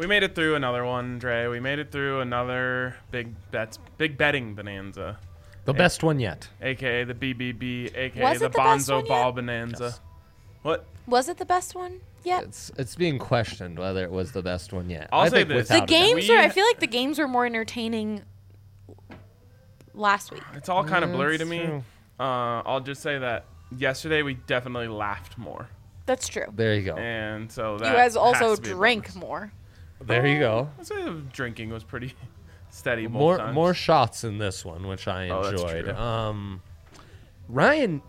We made it through another one, Dre. We made it through another big betting bonanza. The best one yet. AKA the BBB, AKA Was the it the best Bonzo one Ball yet? bonanza. Yes. What? Was it the best one yet? It's being questioned whether it was the best one yet. I'll I say think this. The without a doubt. games I feel like the games were more entertaining last week. It's all kind of blurry to That's me. true. I'll just say that yesterday we definitely laughed more. That's true. There you go. And so that You guys has also to be a drank bonus. more. There you go. I'd say the drinking was pretty steady both More times. more shots in this one, which I Oh, that's enjoyed. true. Ryan,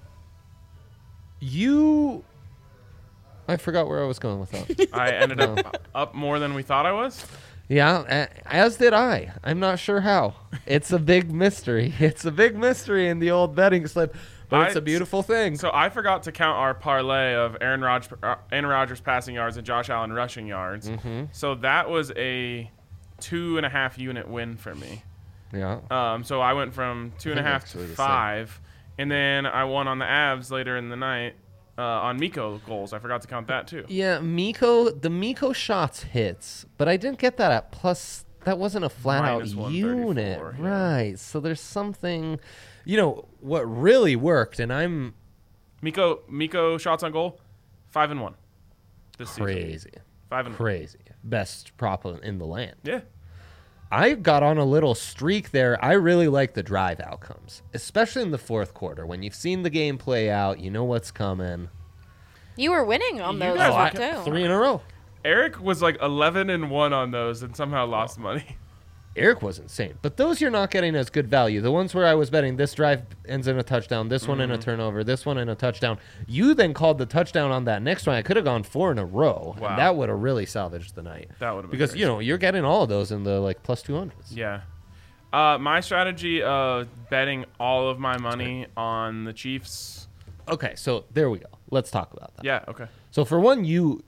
I forgot where I was going with that. I ended up more than we thought I was. Yeah, as did I. I'm not sure how. It's a big mystery. It's a big mystery in the old betting slip, but it's a beautiful thing. So I forgot to count our parlay of Aaron Rodgers passing yards and Josh Allen rushing yards. Mm-hmm. So that was a 2.5 unit win for me. Yeah. So I went from 2.5 to actually the same. 5, and then I won on the Avs later in the night on Miko goals. I forgot to count that too. Yeah, the Miko shots hits, but I didn't get that at plus. That wasn't a flat out Minus unit, 134, yeah. right? So there's something, what really worked, and I'm Miko shots on goal, 5-1 this season. crazy, 5-1. crazy, best prop in the land. Yeah. I got on a little streak there. I really like the drive outcomes, especially in the fourth quarter when you've seen the game play out. You know what's coming. You were winning on You those guys too. 3 in a row. Eric was like 11-1 on those and somehow lost money. Eric was insane. But those you're not getting as good value. The ones where I was betting this drive ends in a touchdown, this one in a turnover, this one in a touchdown. You then called the touchdown on that next one. I could have gone 4 in a row. Wow. And that would have really salvaged the night. That would have been Because, very you're getting all of those in the plus 200s. Yeah. My strategy of betting all of my money on the Chiefs. Okay, so there we go. Let's talk about that. Yeah, okay. So for one, you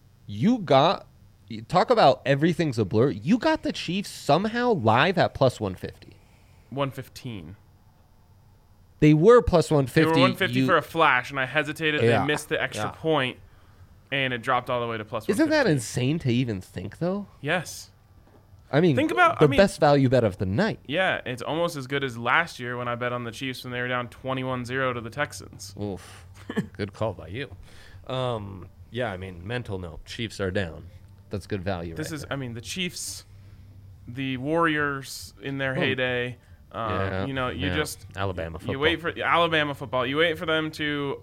talk about everything's a blur. You got the Chiefs somehow live at plus 150. 115. They were plus 150. They were 150 for a flash, and I hesitated. Yeah. They missed the extra point, and it dropped all the way to plus 150. Isn't that insane to even think, though? Yes. I mean, Think about- the best value bet of the night. Yeah, it's almost as good as last year when I bet on the Chiefs when they were down 21-0 to the Texans. Oof. Good call by you. Yeah, I mean, mental note. Chiefs are down. That's good value. This right is, there. I mean, the Chiefs, the Warriors in their heyday. Yeah, You yeah. just Alabama football. You wait for Alabama football. You wait for them to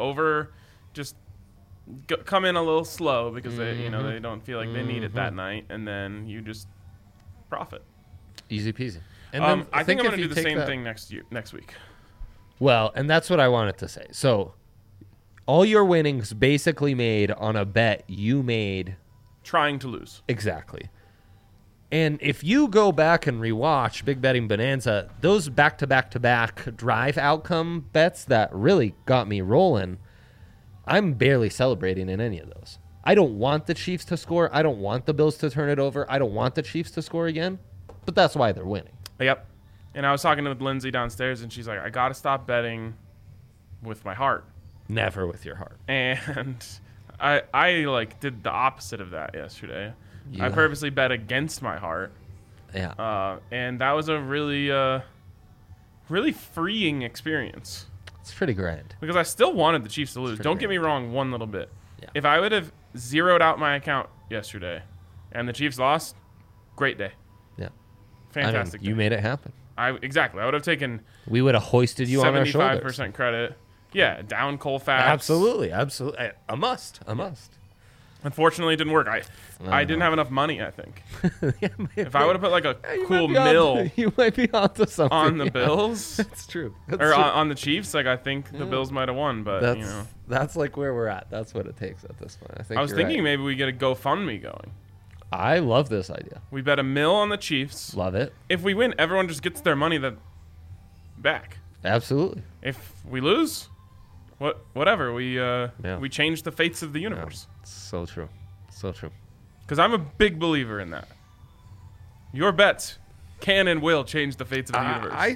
come in a little slow because they don't feel like they need it that night, and then you just profit. Easy peasy. And then I think I'm if going to you do the take same that- thing next week. Well, and that's what I wanted to say. So, all your winnings basically made on a bet you made Trying to lose. exactly. And if you go back and rewatch Big Betting Bonanza, those back-to-back-to-back drive outcome bets that really got me rolling, I'm barely celebrating in any of those. I don't want the Chiefs to score. I don't want the Bills to turn it over. I don't want the Chiefs to score again. But that's why they're winning. Yep. And I was talking with Lindsay downstairs, and she's like, I got to stop betting with my heart. Never with your heart. And I like did the opposite of that yesterday. I Yeah. purposely bet against my heart. Yeah. And that was a really, really freeing experience It's pretty grand. because I still wanted the Chiefs to lose. pretty Don't get great. me wrong one little bit. Yeah. If I would have zeroed out my account yesterday and the Chiefs lost, great day. Yeah. Fantastic I mean, you day. made it happen. Exactly. I would have taken We would have hoisted you on our shoulders. 75% credit. Yeah, down Colfax. Absolutely. A must. Unfortunately, it didn't work. I didn't have enough money, I think. If I would have put like a cool mill You might be onto something. on the yeah. Bills That's true. That's or true. on the Chiefs, like I think the Bills might have won, but That's like where we're at. That's what it takes at this point. I think I was you're thinking right. maybe we get a GoFundMe going. I love this idea. We bet $1 million on the Chiefs. Love it. If we win, everyone just gets their money back. Absolutely. If we lose, whatever. We change the fates of the Yeah. universe. So true. So true. Because I'm a big believer in that. Your bets can and will change the fates of the universe.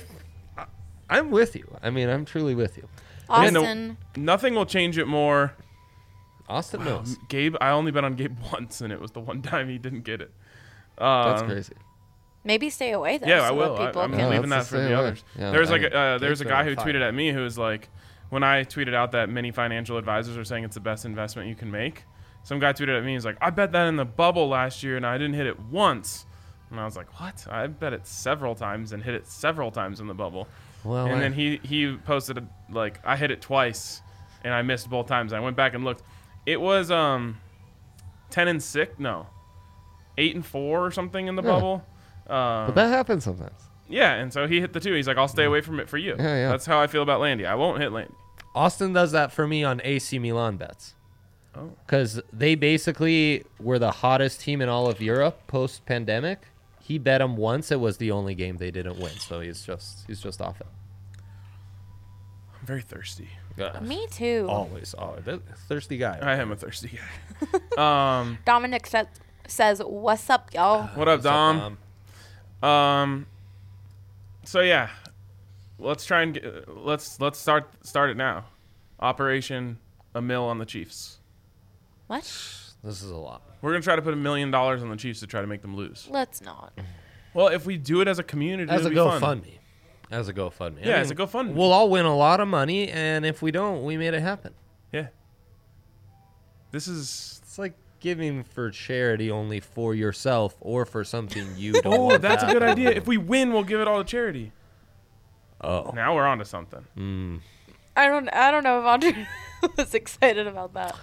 I'm with you. I mean, I'm truly with you. And Austin, nothing will change it more. Austin knows. Gabe, I only bet on Gabe once, and it was the one time he didn't get it. That's crazy. Maybe stay away though. Yeah, I so will. that people I'm can- leaving that that's for the the same way. others. Yeah, there's I like mean, there's a cakes guy are who fine. tweeted at me who was like, when I tweeted out that many financial advisors are saying it's the best investment you can make, some guy tweeted at me, he's like, I bet that in the bubble last year and I didn't hit it once. And I was like, what? I bet it several times and hit it several times in the bubble. Well, And then he posted like, I hit it twice and I missed both times. I went back and looked. It was 10-6, no, 8-4 or something in the Yeah. bubble. but that happens sometimes. Yeah, and so he hit the 2. He's like, I'll stay away from it for you. Yeah. That's how I feel about Landy. I won't hit Landy. Austin does that for me on AC Milan bets. Oh. Because they basically were the hottest team in all of Europe post-pandemic. He bet them once. It was the only game they didn't win, so he's just off it. I'm very thirsty. Me too. Always. Thirsty guy. I am a thirsty guy. Dominic says, "What's up, y'all?" What up, Dom? So yeah, let's try and let's start it now. Operation a mil on the Chiefs. What? This is a lot. We're gonna try to put $1 million on the Chiefs to try to make them lose. Let's not. Well, if we do it as a community, As a it'll be fun. GoFundMe. As a GoFundMe. Yeah, as a GoFundMe. We'll all win a lot of money, and if we don't, we made it happen. Yeah. This is. It's like giving for charity only for yourself or for something you don't Oh, want that's to a good happen. idea. If we win, we'll give it all to charity. Oh. Now we're on to something. I don't know if Andre was excited about that.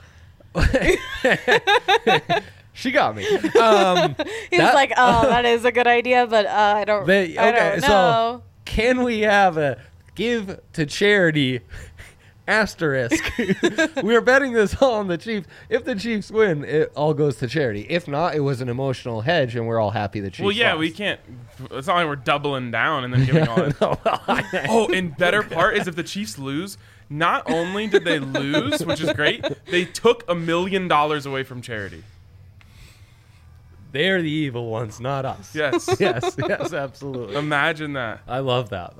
She got me. He was That- like, "Oh, that is a good idea, but I don't. I don't know." so can we have a give to charity asterisk? We're betting this all on the Chiefs. If the Chiefs win, it all goes to charity. If not, it was an emotional hedge, and we're all happy the Chiefs Well, yeah, lost. we can't. It's not like we're doubling down and then giving all that. No, well, I- Oh, and better part is if the Chiefs lose, not only did they lose, which is great, they took $1 million away from charity. They're the evil ones, not us. Yes. yes, absolutely. Imagine that. I love that.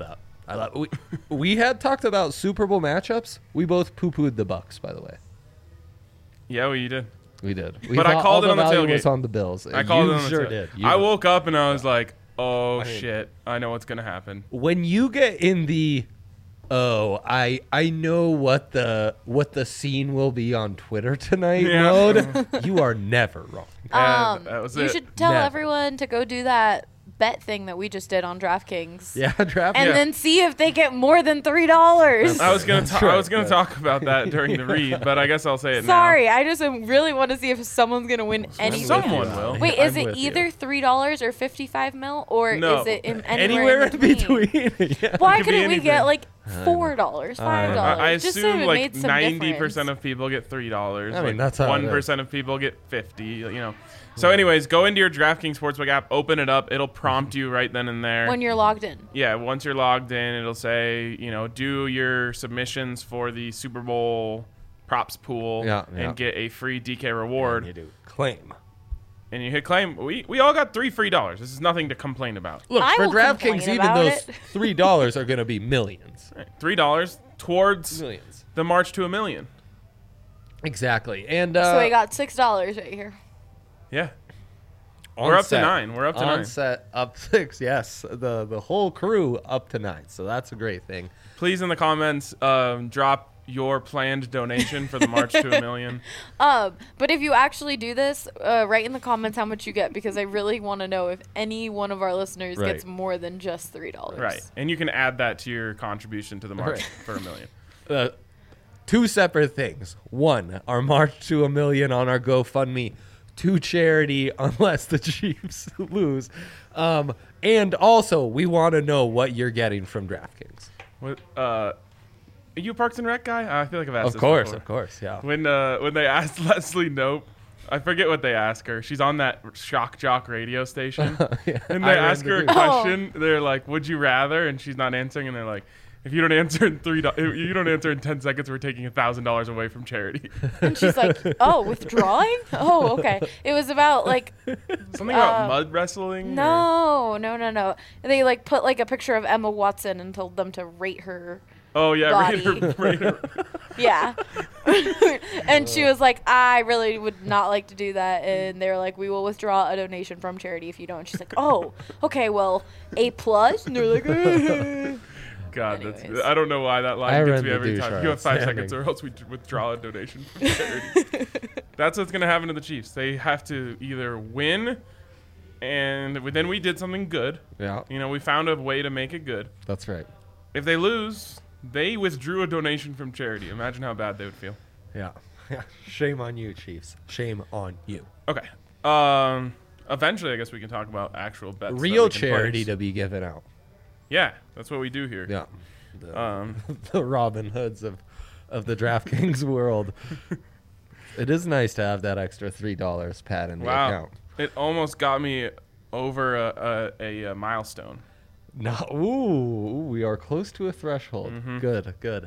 We had talked about Super Bowl matchups. We both poo-pooed the Bucks, by the way. Yeah, well, you did. We did. We But I thought called all it on the value tailgate. was on the Bills. I called You it on the sure tail- did. I You- woke up and I was like, oh, shit. I know what's going to happen. When you get in the I know what the scene will be on Twitter tonight Yeah. mode, you are never wrong. And that was You it. should tell Never. everyone to go do that bet thing that we just did on DraftKings. Yeah, draft. And Yeah. then see if they get more than $3. I was gonna That's I was right, gonna talk about that during the read, but I guess I'll say it Sorry, I just really want to see if someone's gonna win anything. Someone will. Wait, I'm is it with you. either $3 or 55 mil, or No. is it Anywhere in between. Yeah. Why It could be couldn't we get anything. like $4, $5? now. I just so assume it like made some 90% difference. of people get $3. I mean, like that's how it 1% of people get 50. You know. So, anyways, go into your DraftKings Sportsbook app, open it up. It'll prompt you right then and there. when you're logged in. Yeah, once you're logged in, it'll say, do your submissions for the Super Bowl props pool Yeah. and get a free DK reward. You do claim. And you hit claim. We all got $3 free. This is nothing to complain about. Look, I for will DraftKings, complain even about those it. $3 are going to be millions. $3 towards Millions. the march to $1 million. Exactly. And So we got $6 right here. Yeah. on We're up to set. 9. We're up to on 9. set up 6. Yes, the whole crew up to 9. So that's a great thing. Please in the comments drop your planned donation for the march to $1 million. But if you actually do this, write in the comments how much you get, because I really want to know if any one of our listeners Right. gets more than just $3. Right. And you can add that to your contribution to the march Right. for $1 million. Two separate things. One, our march to $1 million on our GoFundMe to charity unless the Chiefs lose. And also, we want to know what you're getting from DraftKings. What, are you a Parks and Rec guy? I feel like I've asked this Of before. course, yeah. When they asked Leslie Knope, I forget what they ask her. She's on that Shock Jock radio station. Yeah, And I they ask her a remember too. question. They're like, "Would you rather?" And she's not answering. And they're like, "If you don't answer in if you don't answer in 10 seconds, we're taking $1,000 away from charity." And she's like, "Oh, withdrawing? Oh, okay." It was about like Something about mud wrestling. no. They like put like a picture of Emma Watson and told them to rate her Oh yeah, body. Raider. Yeah. And she was like, I really would not like to do that. And they were like, we will withdraw a donation from charity if you don't. And she's like, oh, okay, well, A+. And they're like, God, Anyways. I don't know why that I line gets read me the every douche time. You have 5 outstanding. seconds, or else we withdraw a donation from charity. That's what's gonna happen to the Chiefs. They have to either win, and then we did something good. Yeah, You know, we found a way to make it good. that's right. If they lose, they withdrew a donation from charity. Imagine how bad they would feel. Yeah. Shame on you, Chiefs. Shame on you. Okay. Eventually, I guess we can talk about actual bets. that Real we can charity place. to be given out. Yeah, that's what we do here. Yeah. The, Um, the Robin Hoods of the DraftKings world. It is nice to have that extra $3 pad in the wow. account. It almost got me over a milestone. No, ooh, we are close to a threshold. Mm-hmm. Good.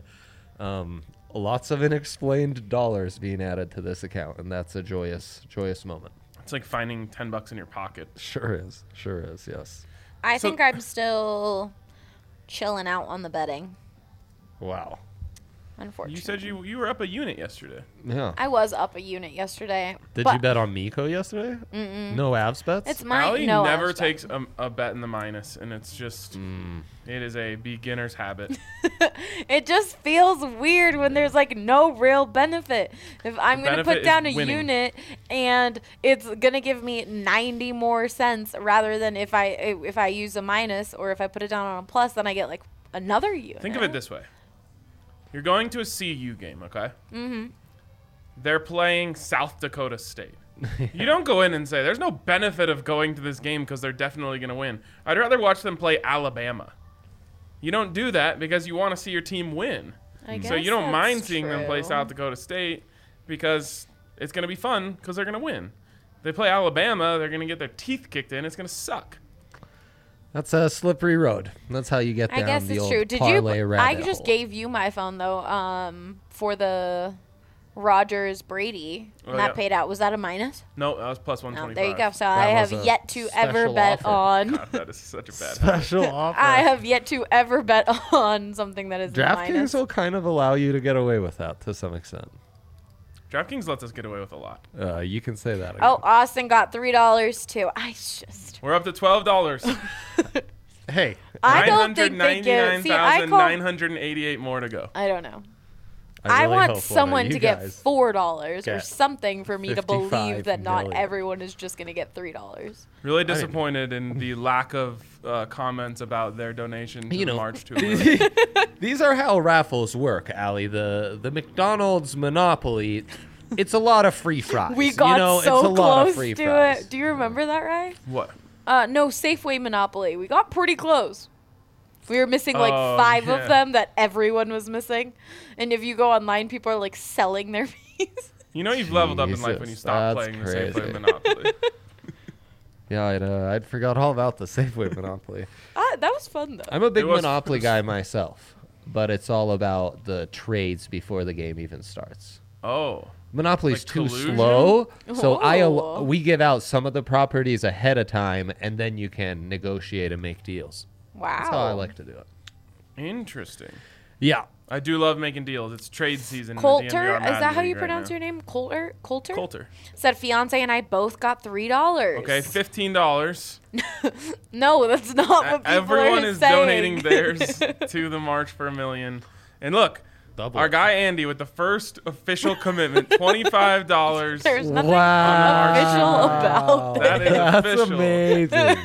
Lots of unexplained dollars being added to this account, and that's a joyous moment. It's like finding $10 in your pocket. Sure is. Yes. I So- think I'm still chilling out on the betting, Wow. unfortunately. You said you were up a unit yesterday. Yeah. I was up a unit yesterday. Did but you bet on Miko yesterday? Mm-mm. No abs bets? It's my Allie no. never I've takes a bet in the minus, and it's just it is a beginner's habit. It just feels weird when there's like no real benefit. If I'm The gonna benefit put down a is winning. unit and it's gonna give me 90 more cents rather than if I use a minus, or if I put it down on a plus, then I get like another unit. Think of it this way: you're going to a CU game, okay? Mm-hmm. They're playing South Dakota State. You don't go in and say, "There's no benefit of going to this game because they're definitely going to win." I'd rather watch them play Alabama. You don't do that because you want to see your team win. I So you guess don't mind that's seeing them play true. South Dakota State because it's going to be fun because they're going to win. They play Alabama, they're going to get their teeth kicked in. It's going to suck. That's a slippery road. That's how you get I down guess the it's old true. Did parlay you? I rabbit just hole. gave you my phone though. For the Rogers Brady, and Oh, that yeah. paid out. Was that a minus? No, that was plus No, 125. there you go. So That I was have a yet to ever special bet offer. on. God, that is such a bad habit. Special offer. I have yet to ever bet on something that is a DraftKings minus. will kind of allow you to get away with that to some extent. DraftKings lets us get away with a lot. You can say that. Oh, Again. Austin got $3 too. I just. We're up to $12. Hey, I don't think they give. See, I call. 999,988 more to go. I don't know. really I hope want one of someone you to get guys $4 or get something for me to 55 believe that not million. everyone is just going to get $3. Really disappointed in the lack of comments about their donation to You the know, March tour. these are how raffles work, Allie. The McDonald's Monopoly, it's a lot of free fries. We got it's a so lot of close free to fries. it. Do you remember that, right? What? No, Safeway Monopoly. We got pretty close. We were missing like Oh, 5 yeah. of them that everyone was missing. And if you go online, people are like selling their piece. You know you've leveled up in life when you Jesus, stop that's playing the crazy. Safeway Monopoly. Yeah, I'd forgot all about the Safeway Monopoly. That was fun though. I'm a big It was- Monopoly guy myself, but it's all about the trades before the game even starts. Oh. Monopoly's Like too collusion? slow, so Oh. we give out some of the properties ahead of time, and then you can negotiate and make deals. Wow. That's how I like to do it. Interesting. Yeah. I do love making deals. It's trade season. in the Coulter, DNVR is that Madden how you League right pronounce now. your name? Coulter? Coulter? Coulter. Said fiance and I both got $3. Okay, $15. No, that's not what people Everyone are is saying. donating theirs to the March for a Million. And look, Double. our guy Andy with the first official commitment, $25. There's nothing Wow. official about That is That's official. amazing.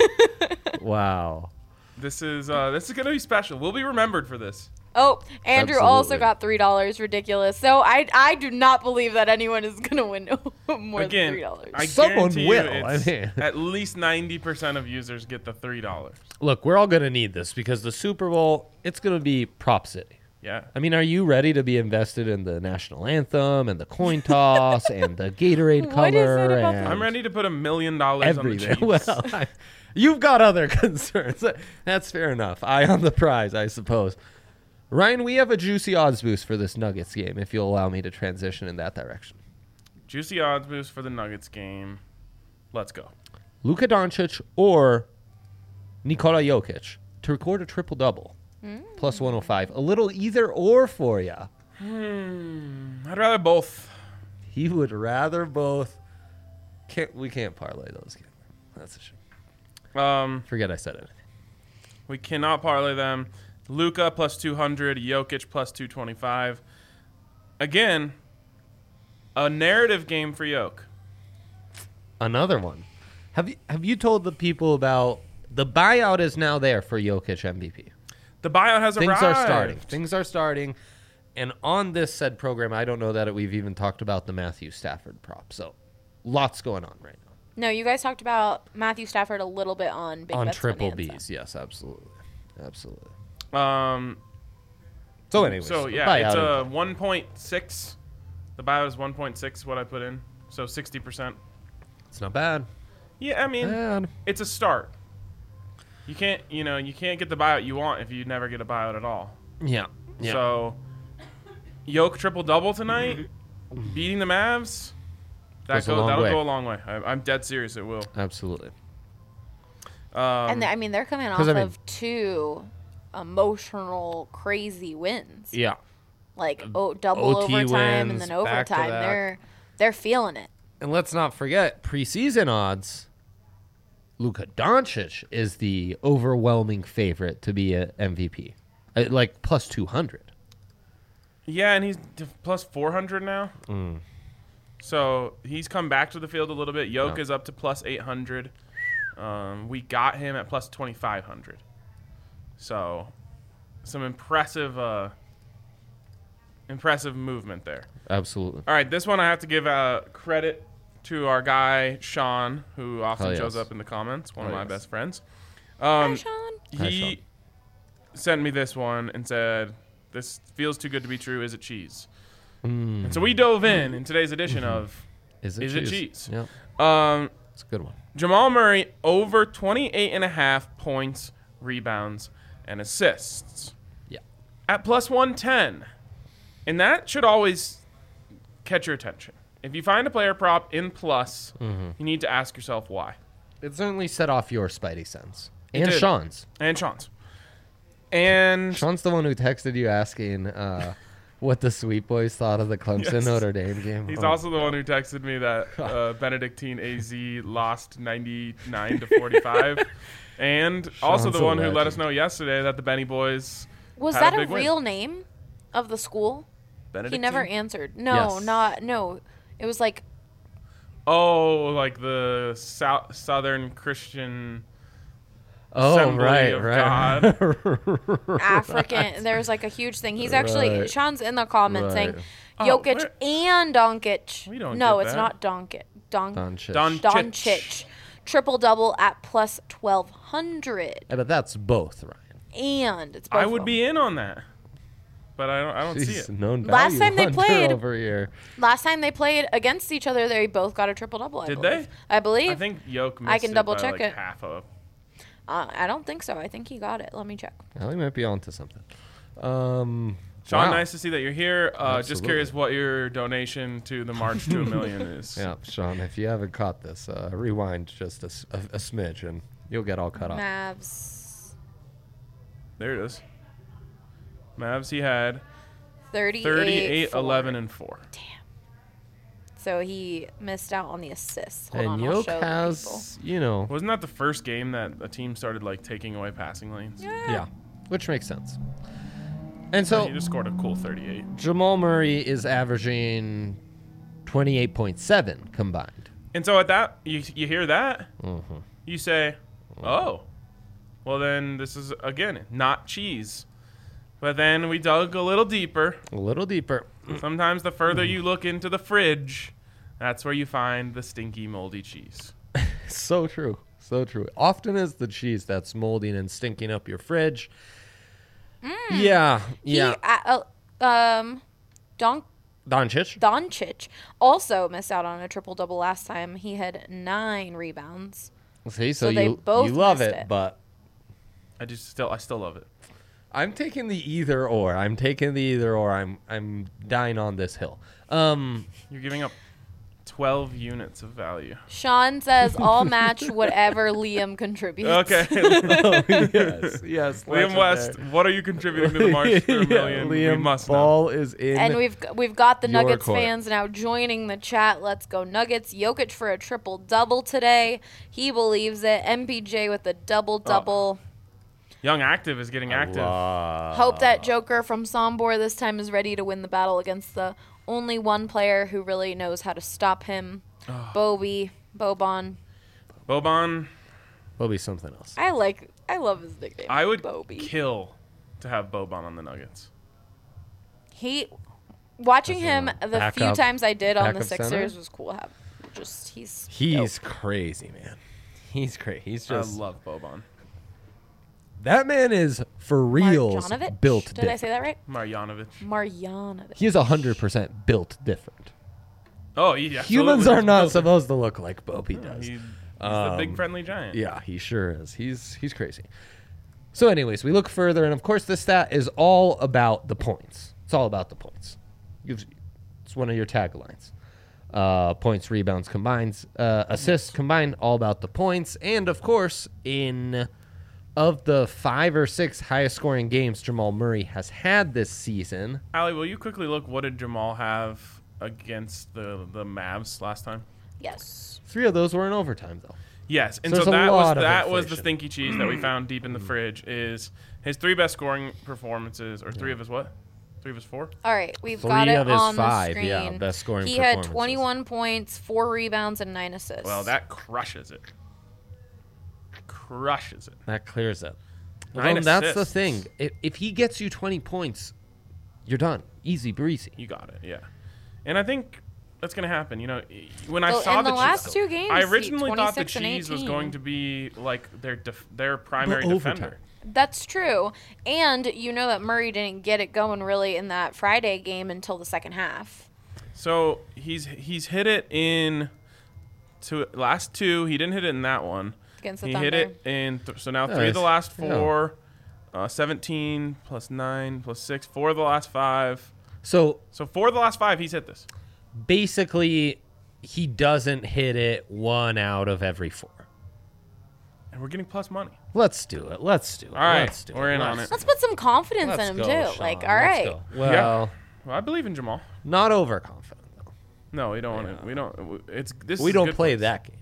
Wow. This is gonna be special. We'll be remembered for this. Oh, Andrew also Absolutely. got $3. Ridiculous. So I do not believe that anyone is gonna win more Again, than $3. I Someone guarantee will, you I it's mean. at least 90% of users get the $3. Look, we're all going to need this because the Super Bowl, it's going to be Prop City. Yeah. I mean, are you ready to be invested in the national anthem and the coin toss and the Gatorade color? What is it about and the- I'm ready to put $1 million on the everything. Chiefs. Well, you've got other concerns. That's fair enough. Eye on the prize, I suppose. Ryan, we have a juicy odds boost for this Nuggets game, if you'll allow me to transition in that direction. Juicy odds boost for the Nuggets game. Let's go. Luka Doncic or Nikola Jokic to record a triple-double Plus 105. A little either or for you. I'd rather both. He would rather both. We can't parlay those games. That's a shame. Forget I said it. We cannot parlay them. Luka plus 200, Jokic plus 225. Again, a narrative game for Jokic. Another one. Have you told the people about the buyout is now there for Jokic MVP? The buyout has Things arrived. are starting. Things are starting. And on this said program, I don't know that we've even talked about the Matthew Stafford prop. So lots going on right now. No, you guys talked about Matthew Stafford a little bit on Big On Bets Triple Bonanza. Bs, yes, absolutely. Absolutely. So anyways, yeah, it's a 1.6. The buyout is 1.6. What I put in, so 60%. It's not bad. Yeah, I mean, it's a start. You can't get the buyout you want if you never get a buyout at all. Yeah. So, Jokic triple double tonight, beating the Mavs. That'll go a long way. I'm dead serious. It will. Absolutely. And they're coming off of 2 emotional, crazy wins. Yeah. Like double OT overtime and wins, then overtime. back-to-back. They're feeling it. And let's not forget, preseason odds, Luka Doncic is the overwhelming favorite to be an MVP. Like plus 200. Yeah, and he's plus 400 now. So he's come back to the field a little bit. Jokic is up to plus 800. We got him at plus 2,500. So some impressive movement there. Absolutely. All right, this one I have to give credit to our guy Sean, who often shows up in the comments. One of my best friends. Hi, Sean. He sent me this one and said, "This feels too good to be true. Is it cheese?" And so we dove in today's edition of Is it cheese? Yeah. It's a good one. Jamal Murray over 28.5 points, rebounds, and assists. Yeah. At plus 110. And that should always catch your attention. If you find a player prop in plus, you need to ask yourself why. It certainly set off your spidey sense. And did. Sean's. And Sean's. And Sean's the one who texted you asking what the Sweet Boys thought of the Clemson Notre Dame game. he's also the one who texted me that Benedictine AZ lost 99 to 45. And also the one who let us know yesterday that the Benny Boys Was had that a a big win. real name of the school? Benedictine? He never answered. No, Yes. no. It was like Oh, like the Southern Christian Oh, Assembly right, of right. God. African. There was like a huge thing. He's actually Right. Sean's in the comments saying Right. Oh, Jokic and Doncic. We don't No, get it's that. not Doncic. Doncic. Doncic. Triple double at plus 1,200. Yeah, but that's both, Ryan. And it's both I of would them. be in on that. But I don't see Jeez, it. known Last value time they hunter played- over here. Last time they played against each other, they both got a triple double. Did they? I believe. I think Yoke missed can it double by check like it. half a. I don't think so. I think he got it. Let me check. I think might be onto something. Sean, Wow. nice to see that you're here. Just Absolutely. curious what your donation to the March to a Million is. Yeah, Sean, if you haven't caught this, rewind just a smidge and you'll get all cut off. Mavs There it is. Mavs, he had 38, 11, and 4. So he missed out on the assists. Hold And on, I'll Yoke show the has, you know, Wasn't that the first game that a team started like taking away passing lanes? people. yeah, which makes sense. And so He just scored a cool 38. Jamal Murray is averaging 28.7 combined. And so at that, you hear that, Mm-hmm. you say, oh, well then this is, again, not cheese. But then we dug a little deeper. A little deeper. Sometimes the further you look into the fridge, that's where you find the stinky, moldy cheese. So true. So true. Often is the cheese that's molding and stinking up your fridge. Yeah. Yeah. Doncic. Doncic also missed out on a triple double last time. He had 9 rebounds. See, So so they you both love missed it, it. but I still love it. I'm taking the either or. I'm dying on this hill. You're giving up 12 units of value. Sean says, "I'll match whatever Liam contributes." Okay. yes. Liam West, what are you contributing to the March for a Million? Liam, We must know. ball is in. And we've got the your Nuggets court. fans now joining the chat. Let's go Nuggets. Jokic for a triple-double today. He believes it. MPJ with a double-double. Young Active is getting active. Hope that Joker from Sombor this time is ready to win the battle against the only one player who really knows how to stop him. Bobon. Boban, Will be something else. I love his nickname. I would Bobby. kill to have Boban on the Nuggets. Watching him the Back few up- times I did on the backup center? Sixers was cool. He's He's dope. crazy, man. He's crazy. He's I just love Boban. that man is for reals Marjanovic? built Did different. I say that right? Marjanovic. Marjanovic. He is 100% built different. Oh, yeah. Humans are not supposed to look like Bobby does. He's the big friendly giant. Yeah, he sure is. He's crazy. So, anyways, we look further, and of course, this stat is all about the points. It's all about the points. It's one of your taglines. Points, rebounds combined, assists combined, all about the points. And of course, of the 5 or 6 highest scoring games Jamal Murray has had this season. Allie, will you quickly look? What did Jamal have against the Mavs last time? Yes. 3 of those were in overtime, though. Yes, and So so there's a that lot of was the inflation. stinky cheese that we found deep in the fridge. Is his 3 best scoring performances, or 3 of his what? 3 of his 4? All right, we've 3 got it of his on 5, the screen. yeah, best scoring He had performances. 21 points, 4 rebounds, and 9 assists. Well, that crushes it. Crushes it. That clears it. 9 Well, that's the assists. thing. If he gets you 20 points, you're done. Easy breezy. You got it, yeah. And I think that's going to happen. You know, when I Well, saw in the the last cheese, 2 games, I he- originally thought the 26 and cheese was 18. going to be like their primary But overtime. defender. That's true. And you know that Murray didn't get it going really in that Friday game until the second half. So he's hit it in last 2. He didn't hit it in that one. Against the He Thunder. hit it in so now 3 of Nice. the last Yeah. 4, 17 plus 9 plus 6, 4 of the last 5. So So 4 of the last 5, he's hit this. basically, he doesn't hit it 1 out of every 4. And we're getting plus money. Let's do it. Let's do it. All right, Let's do we're it. in on Let's- it. Let's put some confidence Let's in him, go, too. Sean. Like, all Let's right. go. Well, Well, I believe in Jamal. not overconfident, though. No, we don't want to. We don't. It's this. We is don't good play for us. that game.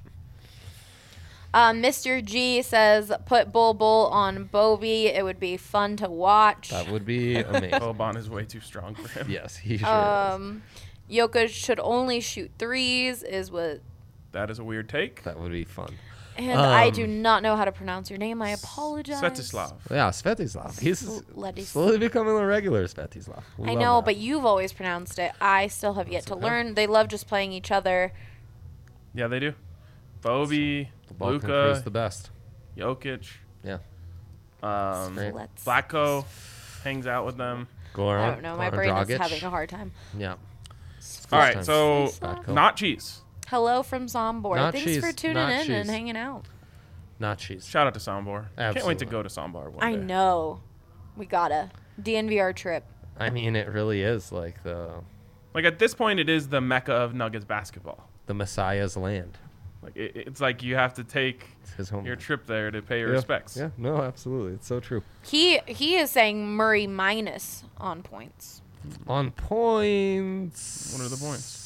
Mr. G says, put Bull on Bobby. It would be fun to watch. That would be amazing. Boban is way too strong for him. Yes, he sure is. Jokic should only shoot threes, is what. That is a weird take. That would be fun. And I do not know how to pronounce your name. I apologize. Svetislav. Yeah, Svetislav. He's Ladislav. slowly becoming a regular Svetislav. I know, but you've always pronounced it. I still have yet to learn. They love just playing each other. Yeah, they do. Bobby, the ball can crease Luka, the best. Jokic, Yeah. Great. Let's. Flacco hangs out with them. Goran. I don't know. My Goran brain is Dragic. having a hard time. Yeah. All right, time. so Flacco. not cheese. Hello from Sombor. Not Thanks cheese, for tuning not in cheese. and hanging out. Not cheese. Shout out to Sombor. Can't wait to Absolutely. go to Sombor one I day. know. We gotta. DNVR trip. I mean, it really is like Like at this point, it is the mecca of Nuggets basketball. the Messiah's land. Like it's like you have to take It's his home. your trip there to pay your Yeah. respects. Yeah, no, absolutely. It's so true. He is saying Murray minus on points. On points. What are the points?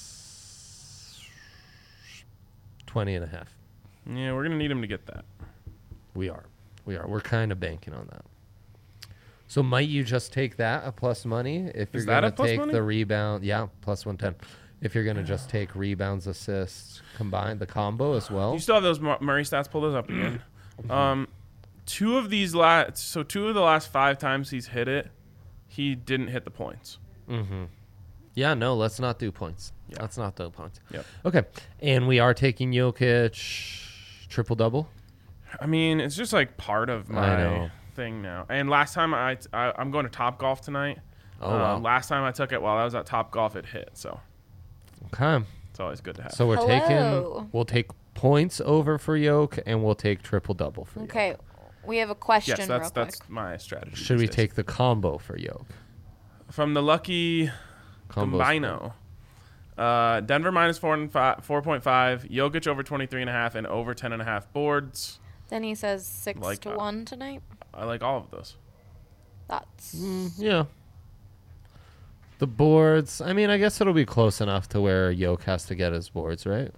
20 and a half. Yeah, we're gonna need him to get that. We are. We're kind of banking on that. So might you just take that a plus money if you're Is that going a to plus take money? the rebound? Yeah, plus 110. If you're going to just take rebounds, assists, combined, the combo as well. You still have those Murray stats. Pull those up again. Two of the last 5 times he's hit it, he didn't hit the points. Mm-hmm. Yeah, no, let's not do points. Yeah. Let's not do points. Yep. Okay, and we are taking Jokic triple-double. I mean, it's just like part of I my know. thing now. And last time I'm going to Top Golf tonight. Oh, wow. Last time I took it while I was at Top Golf, it hit. So Okay. it's always good to have. So we're Hello. we'll take points over for Yoke, and we'll take triple-double for Yoke. Okay. We have a question yes, real quick. that's my strategy. Should we these days. take the combo for Yoke? from the lucky Combo's Combino? Denver minus 4.5. Jokic over 23.5 and over 10.5 boards. Then he says 6 Like, to 1 tonight. I like all of those. That's Yeah. The boards. I mean, I guess it'll be close enough to where Yoke has to get his boards, right?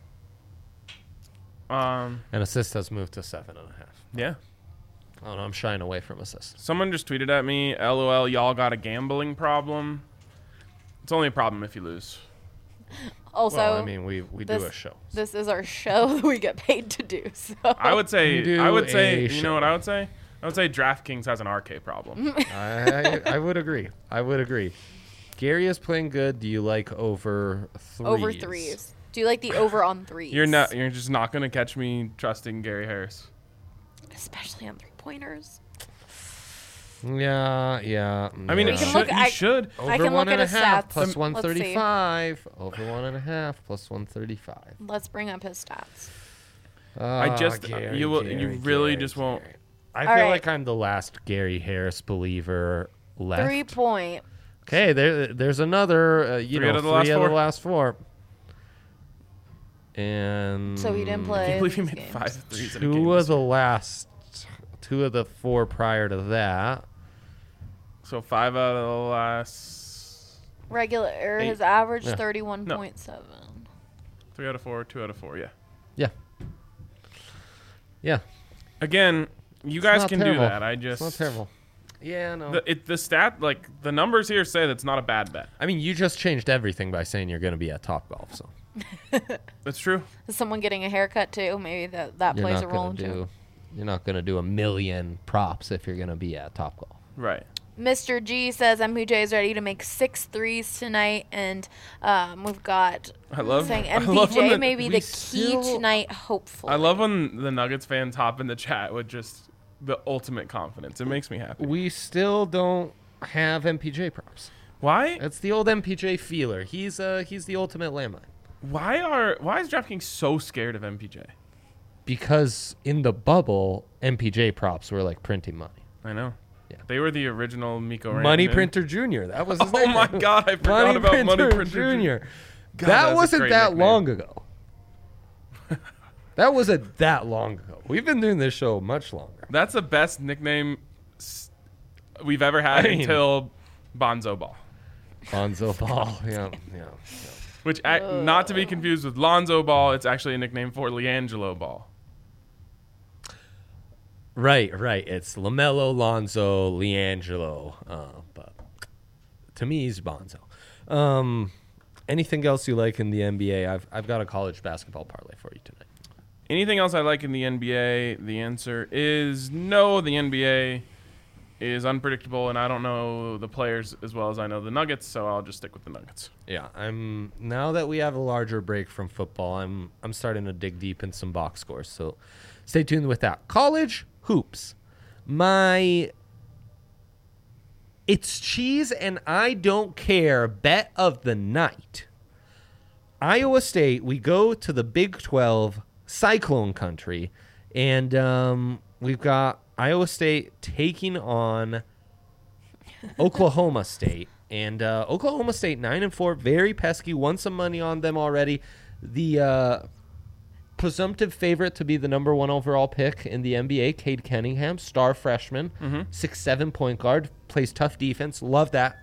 And assist has moved to 7.5. Yeah. I don't know. I'm shying away from assists. Someone just tweeted at me, LOL, y'all got a gambling problem. It's only a problem if you lose. also. Well, I mean, we do this- a show. This is our show that we get paid to do. So I would say, We do a you know what I would say? I would say DraftKings has an RK problem. I would agree. I would agree. Gary is playing good. Do you like over threes? over threes. Do you like the over on threes? You're just not going to catch me trusting Gary Harris. Especially on 3-pointers. Yeah. I mean, We it can should, look- you I- should. Over I can one look and at a his half stats. plus Let's see. 135. Over 1.5 plus 135. Let's bring up his stats. Gary, you really just won't. I All feel right. like I'm the last Gary Harris believer left. 3-point. Okay, there's another. Three out of the last three out of four. the last 4. And So he didn't play. I can't believe he these made games. 5 threes in a game. two of the 4 prior to that. So 5 out of the last Regular. Eight. His average Yeah. 31.7. 3 out of 4, 2 out of 4. Yeah. Yeah. Again, you It's guys not can terrible. do that. I It's just not terrible. Yeah, no. the stat, like the numbers here say that's not a bad bet. I mean, you just changed everything by saying you're going to be at Topgolf, so That's true. Is someone getting a haircut too? Maybe that you're plays not a role going to too. do. You're not going to do a million props if you're going to be at Topgolf. Right. Mr. G says MPJ is ready to make 6 threes tonight, and we've got I love saying I love when MPJ may be we the key still- tonight. Hopefully, I love when the Nuggets fans hop in the chat with just the ultimate confidence. It makes me happy. We still don't have MPJ props. Why? It's the old MPJ feeler. He's the ultimate landmine. Why is DraftKings so scared of MPJ? Because in the bubble, MPJ props were like printing money. I know. Yeah. They were the original Miko Money Rantanen. Printer Jr. That was his Oh name. my God, I forgot about Money Printer Jr. God, that that's a wasn't great that nickname. long ago. That wasn't that long ago. We've been doing this show much longer. That's the best nickname we've ever had I mean- until Bonzo Ball. Bonzo Ball. Yeah. Which, not to be confused with Lonzo Ball, it's actually a nickname for LiAngelo Ball. Right. It's LaMelo, Lonzo, LiAngelo. But to me, he's Bonzo. Anything else you like in the NBA? I've got a college basketball parlay for you tonight. Anything else I like in the NBA? The answer is no. The NBA is unpredictable, and I don't know the players as well as I know the Nuggets, so I'll just stick with the Nuggets. Yeah, now that we have a larger break from football, I'm starting to dig deep in some box scores. So stay tuned with that. College hoops. It's cheese and I don't care bet of the night. Iowa State, we go to the Big 12 Cyclone country, and we've got Iowa State taking on Oklahoma State. And Oklahoma State 9-4, very pesky. Won some money on them already. The presumptive favorite to be the number 1 overall pick in the NBA, Cade Cunningham, star freshman, 6'7" point guard, plays tough defense. Love that.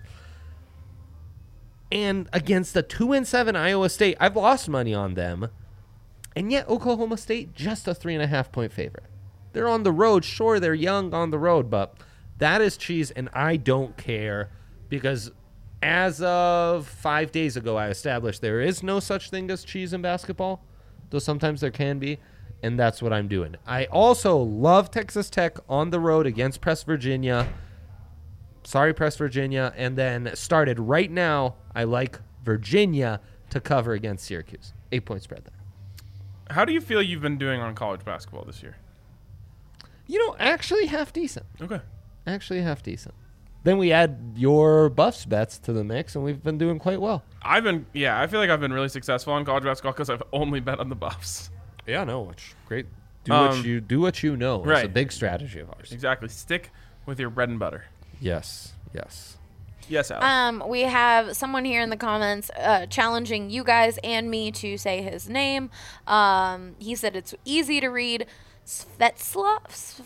And against the 2-7 Iowa State, I've lost money on them. And yet Oklahoma State, just a 3.5 point favorite. They're on the road. Sure, they're young on the road, but that is cheese, and I don't care because as of 5 days ago, I established there is no such thing as cheese in basketball, though sometimes there can be, and that's what I'm doing. I also love Texas Tech on the road against Press Virginia. Sorry, Press Virginia. And then started right now, I like Virginia to cover against Syracuse. 8-point spread there. How do you feel you've been doing on college basketball this year? Actually half decent. Okay. Actually half decent. Then we add your Buffs bets to the mix, and we've been doing quite well. I feel like I've been really successful on college basketball because I've only bet on the Buffs. Yeah, no, it's great. Do what you know. It's a Right. big strategy of ours. Exactly. Stick with your bread and butter. Yes. Yes, Al. We have someone here in the comments challenging you guys and me to say his name. He said it's easy to read. Svetislav.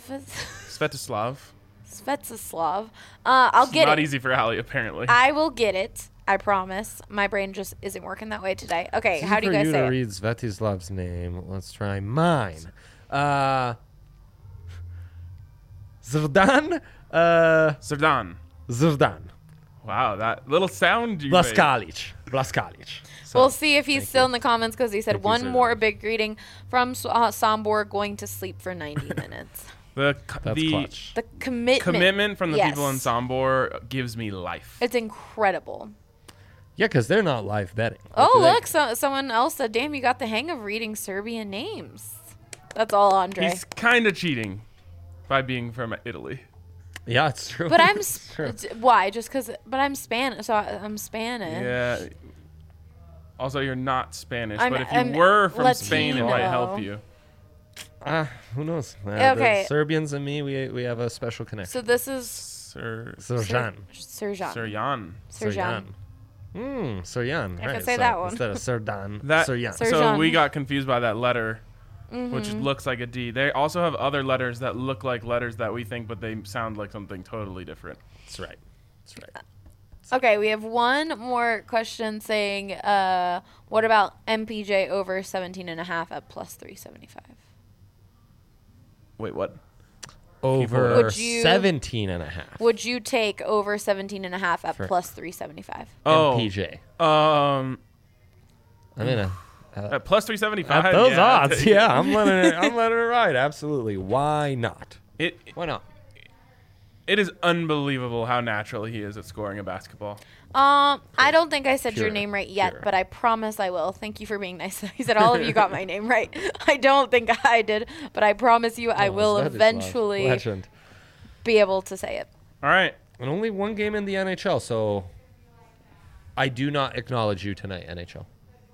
I'll It's get not it. easy for Allie, apparently. I will get it. I promise. My brain just isn't working that way today. Okay, how do you guys for you say to it? read Svetislav's name. Let's try mine. Zrdan. Zrdan. Zrdan. Wow, that little sound you made. Blaskalic. So, We'll see if he's thank still you. in the comments because he said Thank you, one sir. more big greeting from Sombor going to sleep for 90 minutes. The That's clutch. The commitment from the people in Yes. Sombor gives me life. It's incredible. Yeah, because they're not live betting. Oh, They- look, someone else said, damn, you got the hang of reading Serbian names. That's all, Andre. He's kind of cheating by being from Italy. Yeah, it's true. But I'm It's true. why? Just because? But I'm Spanish, so I'm Spanish. Yeah. Also, you're not Spanish, I'm- but if you I'm were from Spain, it might Latino. help you. Who knows? Okay. The Serbians and me, we have a special connection. So this is Serjan. Serjan. Serjan. Serjan. Serjan. I right. can say so that one. Instead of Serdan, That Serjan. Ser- so Serjan. we got confused by that letter, Mm-hmm. which looks like a D. They also have other letters that look like letters that we think, but they sound like something totally different. That's right. That's right. Okay, we have one more question saying, what about MPJ over 17.5 at plus 375? Wait, what? Over Would you- 17 and a half. Would you take over 17.5 at For- plus 375? Oh, MPJ. um, I'm in a. at plus 375. At those yeah, I'll odds, take it. yeah, I'm letting it ride. Absolutely. Why not? It Why not? it is unbelievable how natural he is at scoring a basketball. I don't think I said your Pure. name right yet, Pure. but I promise I will. Thank you for being nice. He said all of you got my name right. I don't think I did, but I promise you I will Svetislav, eventually Legend. be able to say it. All right. And only one game in the NHL, so I do not acknowledge you tonight, NHL.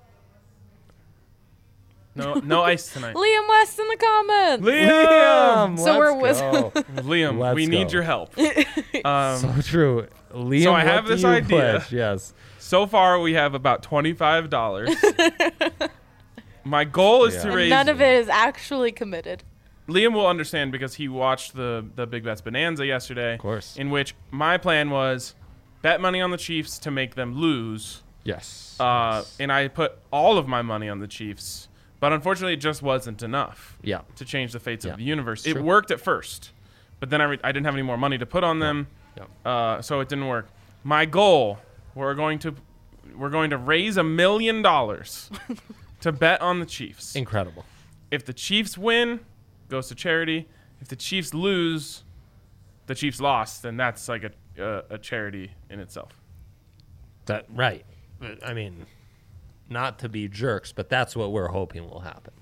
No ice tonight. Liam West in the comments. Liam! So we're let's go. Liam, Let's we need go. your help. So true. Liam, So I what have do this you idea. pledge? Yes. So far, we have about $25. My goal is to Yeah. raise. None of it is actually committed. Liam will understand because he watched the Big Bets Bonanza yesterday. Of course. In which my plan was bet money on the Chiefs to make them lose. Yes. And I put all of my money on the Chiefs. But unfortunately, it just wasn't enough Yeah. to change the fates Yeah. of the universe. It's It true. worked at first, but then I didn't have any more money to put on them, so it didn't work. My goal: we're going to raise $1 million to bet on the Chiefs. Incredible. If the Chiefs win, goes to charity. If the Chiefs lose, the Chiefs lost, then that's like a charity in itself. That right. I mean, not to be jerks, but that's what we're hoping will happen.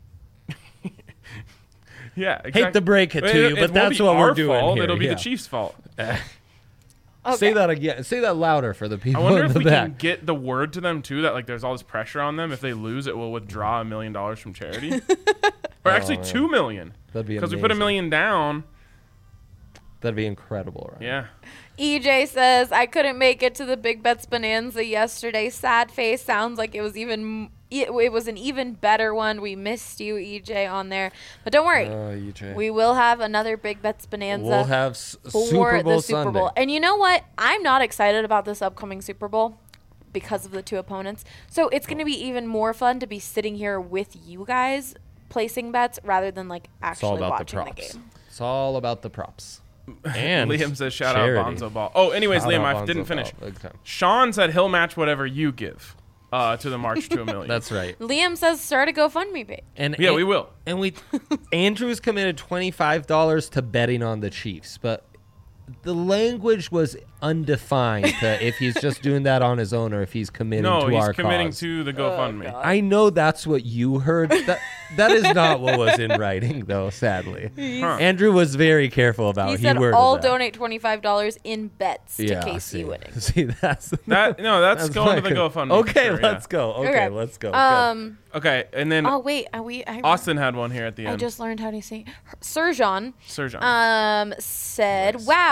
Yeah, exactly. Hate to break it to you, but won't that's be what we're our doing fault. here, It'll be yeah. the Chiefs' fault. Okay. Say that again. Say that louder for the I people wonder in if the we back. can get the word to them too that like there's all this pressure on them. If they lose, it will withdraw $1 million from charity, or actually man. $2 million That'd be because we put $1 amazing. million down. That'd be incredible, right? Yeah, EJ says, I couldn't make it to the Big Bets Bonanza yesterday. Sad face. Sounds like it was it was an even better one. We missed you, EJ, on there. But don't worry. EJ. We will have another Big Bets Bonanza We'll have for Super Bowl the Super Sunday. Bowl. And you know what? I'm not excited about this upcoming Super Bowl because of the two opponents. So it's going to be even more fun to be sitting here with you guys placing bets rather than like It's all actually about the watching the props. game. It's all about the props. And Liam says shout charity. out Bonzo Ball. Oh, anyways, Shout Liam, out I didn't Bonzo finish. Ball. Big time. Sean said he'll match whatever you give to the March to $1 million. That's right. Liam says start a GoFundMe page. And Yeah, we will. And Andrew's committed $25 to betting on the Chiefs, but the language was undefined to if he's just doing that on his own or if he's committing No, to he's our committing cause. to the GoFundMe. God. I know that's what you heard. That is not what was in writing, though. Sadly, Huh. Andrew was very careful about. He said worded all that. donate $25 in bets to KC see. winning. See, that's That no, that's going to the my- GoFundMe. Okay, for sure, let's go. Okay, Okay. let's go. Okay, and then Oh wait, Austin had one here at the I end. just learned how to say Serjan. Serjan. Said, "Wow,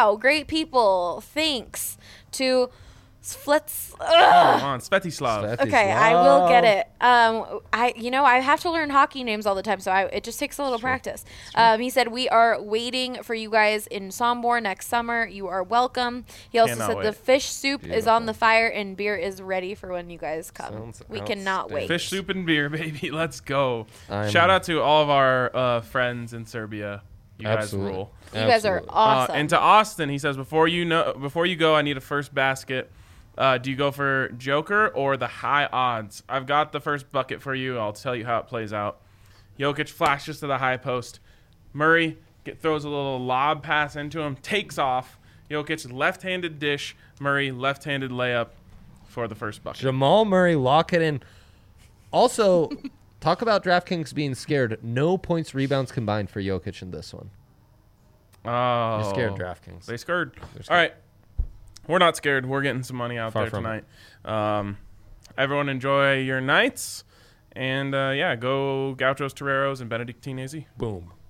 wow, great people. Thanks to Flets. Come on, Svetislav. Okay, I will get it. I have to learn hockey names all the time, so it just takes a little practice. He said, we are waiting for you guys in Sombor next summer. You are welcome. He also Cannot said wait. the fish soup is on the fire and beer is ready for when you guys come. Sounds We cannot wait. Fish soup and beer, baby. Let's go. I'm- Shout out to all of our friends in Serbia. You Absolutely. guys rule. You guys are awesome. And to Austin, he says, before you go, I need a first basket. Do you go for Joker or the high odds? I've got the first bucket for you. I'll tell you how it plays out. Jokic flashes to the high post. Murray throws a little lob pass into him, takes off. Jokic left-handed dish. Murray left-handed layup for the first bucket. Jamal Murray, lock it in. Also, talk about DraftKings being scared. No points, rebounds combined for Jokic in this one. Oh, You're scared, DraftKings. They scared. All right. We're not scared. We're getting some money out Far there from tonight. Everyone enjoy your nights. And, go Gauchos, Toreros, and Benedictine AZ. Boom.